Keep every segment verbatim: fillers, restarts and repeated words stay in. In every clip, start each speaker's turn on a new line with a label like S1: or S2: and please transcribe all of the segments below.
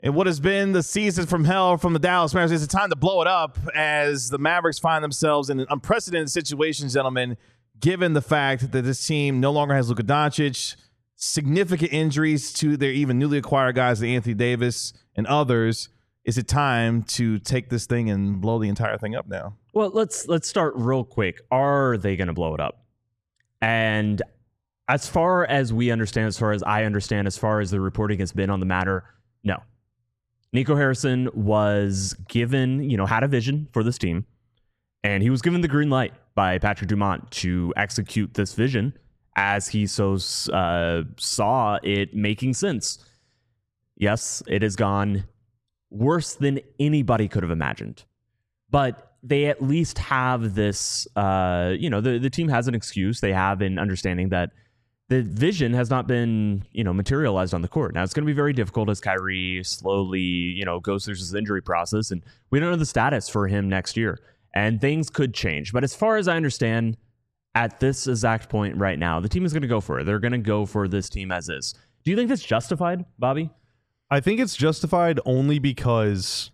S1: In what has been the season from hell from the Dallas Mavericks, it's time to blow it up as the Mavericks find themselves in an unprecedented situation, gentlemen, given the fact that this team no longer has Luka Doncic, significant injuries to their even newly acquired guys, like Anthony Davis and others. Is it time to take this thing and blow the entire thing up now?
S2: Well, let's let's start real quick. Are they going to blow it up? And as far as we understand, as far as I understand, as far as the reporting has been on the matter, no. Nico Harrison was given, you know, had a vision for this team, and he was given the green light by Patrick Dumont to execute this vision as he so uh, saw it making sense. Yes, it has gone worse than anybody could have imagined, but they at least have this, uh, you know, the, the team has an excuse. They have an understanding that the vision has not been, you know, materialized on the court. Now, it's going to be very difficult as Kyrie slowly, you know, goes through his injury process, and we don't know the status for him next year, and things could change. But as far as I understand, at this exact point right now, the team is going to go for it. They're going to go for this team as is. Do you think that's justified, Bobby?
S3: I think it's justified only because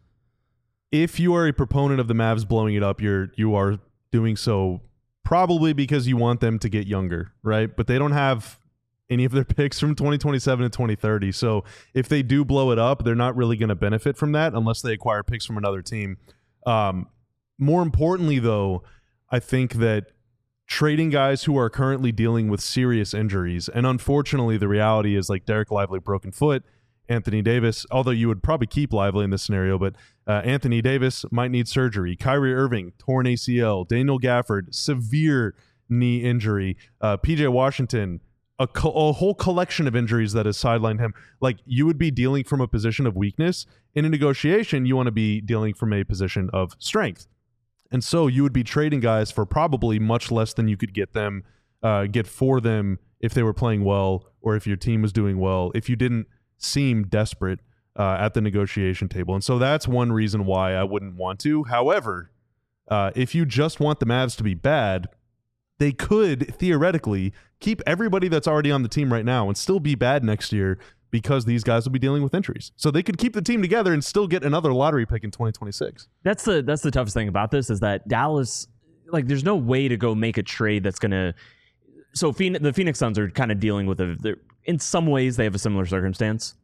S3: if you are a proponent of the Mavs blowing it up, you're you are doing so probably because you want them to get younger, right? But they don't have any of their picks from twenty twenty-seven to twenty thirty. So if they do blow it up, they're not really going to benefit from that unless they acquire picks from another team. Um, more importantly, though, I think that trading guys who are currently dealing with serious injuries, and unfortunately the reality is like Derek Lively, broken foot, Anthony Davis, although you would probably keep Lively in this scenario, but uh, Anthony Davis might need surgery. Kyrie Irving, torn A C L. Daniel Gafford, severe knee injury. Uh, P J Washington, a, co- a whole collection of injuries that has sidelined him. Like, you would be dealing from a position of weakness. In a negotiation, you want to be dealing from a position of strength. And so you would be trading guys for probably much less than you could get them, uh, get for them if they were playing well or if your team was doing well, if you didn't seem desperate uh, at the negotiation table. And so that's one reason why I wouldn't want to. However, uh, if you just want the Mavs to be bad, they could theoretically keep everybody that's already on the team right now and still be bad next year because these guys will be dealing with injuries. So they could keep the team together and still get another lottery pick in twenty twenty-six.
S2: That's the that's the toughest thing about this is that Dallas, like, there's no way to go make a trade that's going to. So Phoenix, the Phoenix Suns are kind of dealing with a. In some ways, they have a similar circumstance,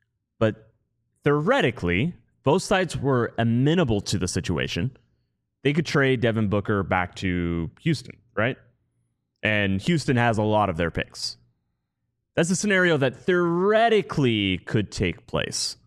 S2: but theoretically, both sides were amenable to the situation. They could trade Devin Booker back to Houston, right? And Houston has a lot of their picks. That's a scenario that theoretically could take place.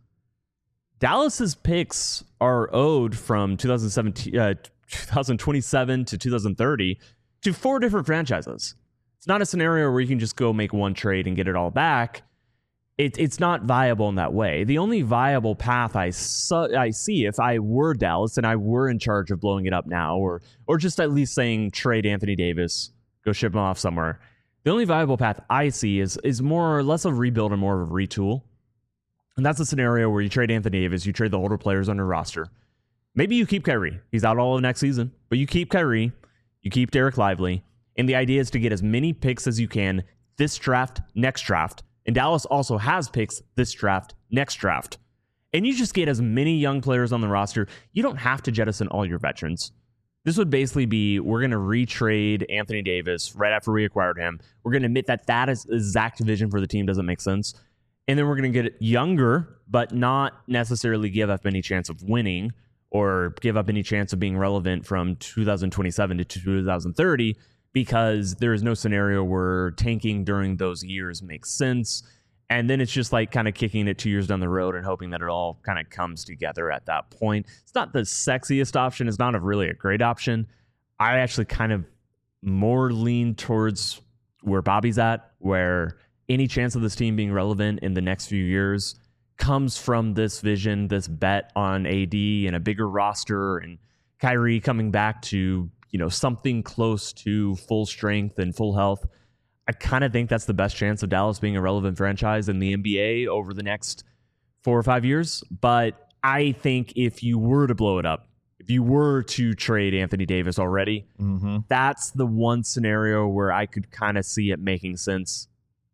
S2: Dallas's picks are owed from twenty seventeen, uh, twenty twenty-seven to twenty thirty to four different franchises. It's not a scenario where you can just go make one trade and get it all back. It, it's not viable in that way. The only viable path I, su- I see if I were Dallas and I were in charge of blowing it up now, or or just at least saying trade Anthony Davis, go ship him off somewhere. The only viable path I see is is more or less of a rebuild and more of a retool. And that's a scenario where you trade Anthony Davis, you trade the older players on your roster. Maybe you keep Kyrie. He's out all of next season. But you keep Kyrie, you keep Derek Lively, and the idea is to get as many picks as you can this draft, next draft. And Dallas also has picks this draft, next draft. And you just get as many young players on the roster. You don't have to jettison all your veterans. This would basically be, we're going to retrade Anthony Davis right after we acquired him. We're going to admit that that is exact vision for the team doesn't make sense. And then we're going to get younger, but not necessarily give up any chance of winning or give up any chance of being relevant from two thousand twenty-seven to two thousand thirty, because there is no scenario where tanking during those years makes sense. And then it's just like kind of kicking it two years down the road and hoping that it all kind of comes together at that point. It's not the sexiest option. It's not a really a great option. I actually kind of more lean towards where Bobby's at, where any chance of this team being relevant in the next few years comes from this vision, this bet on A D and a bigger roster and Kyrie coming back to, you know, something close to full strength and full health. I kind of think that's the best chance of Dallas being a relevant franchise in the N B A over the next four or five years. But I think if you were to blow it up, if you were to trade Anthony Davis already, mm-hmm. that's the one scenario where I could kind of see it making sense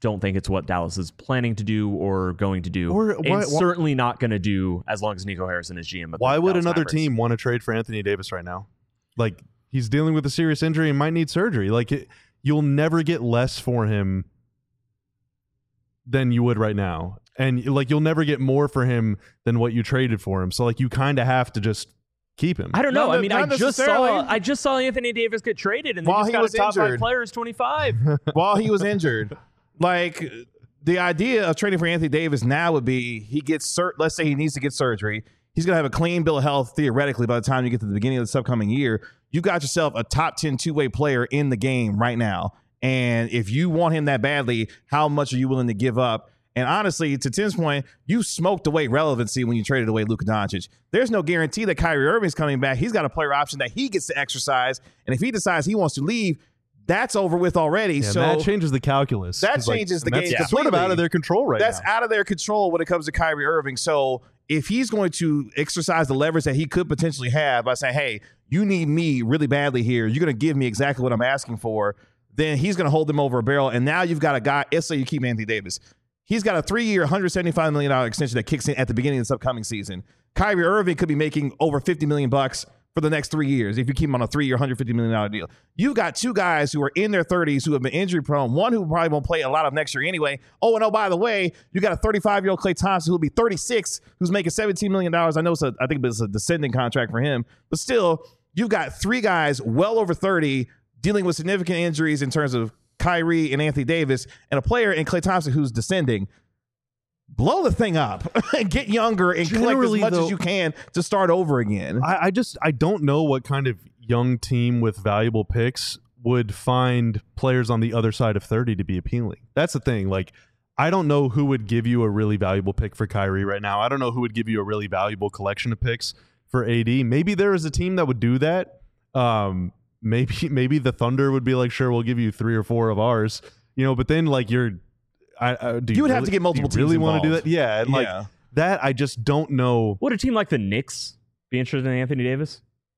S2: don't think it's what Dallas is planning to do or going to do.
S3: Or
S2: and
S3: why- why-
S2: certainly not going to do as long as Nico Harrison is G M. Of the
S3: Why would
S2: Dallas
S3: another
S2: Mavericks.
S3: team want to trade for Anthony Davis right now? Like, he's dealing with a serious injury and might need surgery. Like, it, you'll never get less for him than you would right now. And, like, you'll never get more for him than what you traded for him. So, like, you kind of have to just keep him.
S2: I don't know.
S1: Not-
S2: I mean,
S1: not
S2: I just
S1: necessarily.
S2: saw I just saw Anthony Davis get traded, and they
S1: While
S2: just
S1: he
S2: got
S1: was
S2: a top five
S1: injured.
S2: player is twenty-five.
S1: While he was injured. Like, the idea of trading for Anthony Davis now would be he gets, sur- let's say he needs to get surgery. He's going to have a clean bill of health, theoretically, by the time you get to the beginning of this upcoming year. You got yourself a top ten two-way player in the game right now. And if you want him that badly, how much are you willing to give up? And honestly, to Tim's point, you smoked away relevancy when you traded away Luka Doncic. There's no guarantee that Kyrie Irving's coming back. He's got a player option that he gets to exercise. And if he decides he wants to leave, that's over with already.
S3: Yeah,
S1: so
S3: that changes the calculus.
S1: that
S3: 'Cause, like,
S1: changes the
S3: and that's
S1: game
S3: sort of
S1: completely.
S3: out of their control right
S1: That's
S3: now.
S1: out of their control when it comes to Kyrie Irving. So if he's going to exercise the leverage that he could potentially have by saying, hey, you need me really badly here, you're going to give me exactly what I'm asking for, then he's going to hold them over a barrel. And now you've got a guy, let's say you keep Anthony Davis. He's got a three-year, one hundred seventy-five million dollars extension that kicks in at the beginning of this upcoming season. Kyrie Irving could be making over fifty million bucks for the next three years if you keep him on a three-year, one hundred fifty million dollars deal. You've got two guys who are in their thirties who have been injury-prone, one who probably won't play a lot of next year anyway. Oh, and oh, by the way, you got a thirty-five-year-old Klay Thompson who'll be thirty-six, who's making seventeen million dollars. I know it's a, I think it's a descending contract for him, but still, you've got three guys well over thirty dealing with significant injuries in terms of Kyrie and Anthony Davis, and a player in Klay Thompson who's descending. Blow the thing up and get younger and collect as
S3: Generally,
S1: much
S3: though-
S1: as you can to start over again.
S3: I, I just I don't know what kind of young team with valuable picks would find players on the other side of thirty to be appealing. That's the thing. Like, I don't know who would give you a really valuable pick for Kyrie right now. I don't know who would give you a really valuable collection of picks for A D. Maybe there is a team that would do that. Um, maybe maybe the Thunder would be like, sure, we'll give you three or four of ours. You know, but then like you're, I, I do
S1: You would
S3: really,
S1: have to get multiple
S3: do you
S1: teams
S3: really want to do
S1: involved.
S3: that? Yeah, and like
S1: Yeah.
S3: that, I just don't know.
S2: Would a team like the Knicks be interested in Anthony Davis?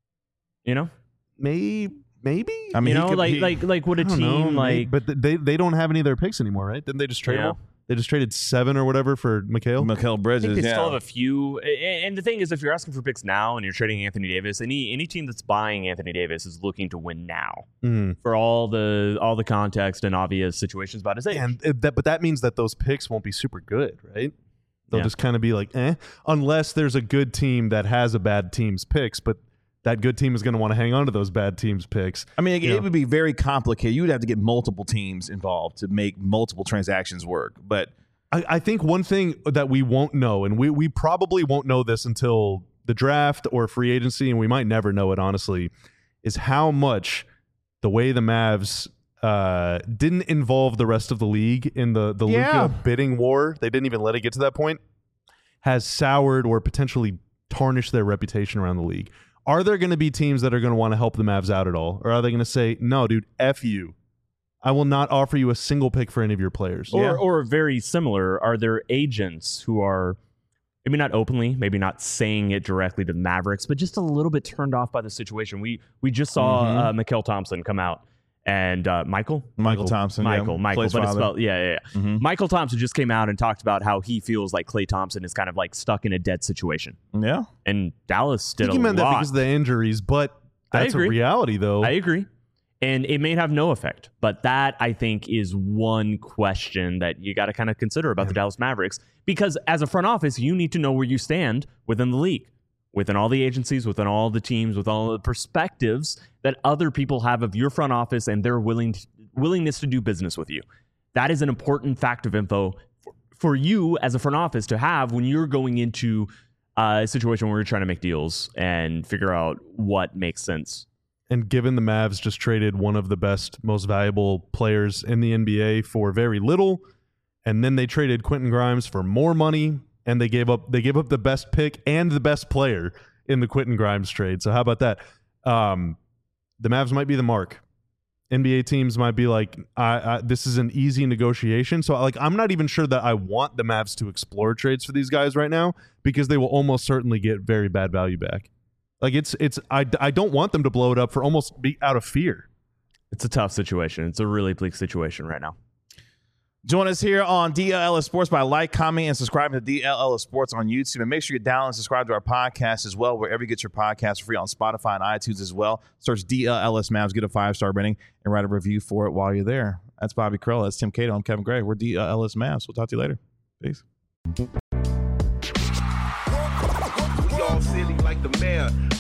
S2: You know,
S3: Maybe. Maybe
S1: I mean,
S2: you
S1: he
S2: know,
S1: could-
S2: like
S1: he-
S2: like like would a
S3: I don't
S2: team
S3: know,
S2: like
S3: but th- they they don't have any of their picks anymore, right? Didn't they just trade
S2: Yeah.
S3: them all? They just traded seven or whatever for Mikhail.
S1: Mikal
S2: I
S1: Bridges.
S2: think they
S1: yeah.
S2: still have a few. a- And the thing is, if you're asking for picks now and you're trading Anthony Davis, any any team that's buying Anthony Davis is looking to win now
S3: Mm.
S2: for all the all the context and obvious situations about his age.
S3: And it- that, but that means that those picks won't be super good, right? They'll
S2: Yeah.
S3: just kind of be like, eh, unless there's a good team that has a bad team's picks, but that good team is going to want to hang on to those bad teams' picks.
S1: I mean, it,
S3: You
S1: it
S3: know.
S1: would be very complicated. You would have to get multiple teams involved to make multiple transactions work. But
S3: I, I think one thing that we won't know, and we, we probably won't know this until the draft or free agency, and we might never know it, honestly, is how much the way the Mavs uh, didn't involve the rest of the league in the, the
S1: Yeah.
S3: Luka bidding war, they didn't even let it get to that point, has soured or potentially tarnished their reputation around the league. Are there going to be teams that are going to want to help the Mavs out at all? Or are they going to say, no, dude, F you. I will not offer you a single pick for any of your players.
S2: Or,
S1: Yeah.
S2: or very similar, are there agents who are maybe not openly, maybe not saying it directly to the Mavericks, but just a little bit turned off by the situation? We we just saw
S1: Mhm.
S2: uh, Mikal Thompson come out and uh, Michael
S1: Michael Thompson, yeah,
S2: Michael Michael,
S1: Clay's
S2: but it's
S1: father.
S2: spelled yeah yeah. yeah.
S1: Mhm.
S2: Michael Thompson just came out and talked about how he feels like Klay Thompson is kind of like stuck in a dead situation,
S1: yeah,
S2: and Dallas
S3: I
S2: did
S3: think
S2: a
S3: he meant that
S2: lot.
S3: because of the injuries, but
S2: I
S3: that's a
S2: agree.
S3: reality, though.
S2: I agree. And it may have no effect, but that I think is one question that you got to kind of consider about the Dallas Mavericks, because as a front office, you need to know where you stand within the league, within all the agencies, within all the teams, with all the perspectives that other people have of your front office and their willing willingness to do business with you. That is an important fact of info for, for you as a front office to have when you're going into uh, a situation where you're trying to make deals and figure out what makes sense.
S3: And given the Mavs just traded one of the best, most valuable players in the N B A for very little, and then they traded Quentin Grimes for more money, and they gave up they gave up the best pick and the best player in the Quentin Grimes trade. So how about that? Um, the Mavs might be the mark. N B A teams might be like, I, I, this is an easy negotiation. So like, I'm not even sure that I want the Mavs to explore trades for these guys right now, because they will almost certainly get very bad value back. Like it's it's I, I don't want them to blow it up for almost be out of fear.
S2: It's a tough situation. It's a really bleak situation right now.
S1: Join us here on D L L S Sports by like, comment, and subscribing to D L L S Sports on YouTube. And make sure you download and subscribe to our podcast as well, wherever you get your podcasts, free on Spotify and iTunes as well. Search D L L S Mavs, get a five-star rating, and write a review for it while you're there. That's Bobby Krell. That's Tim Cato. I'm Kevin Gray. We're D L L S Mavs. We'll talk to you later. Peace.
S4: We all silly like the mayor.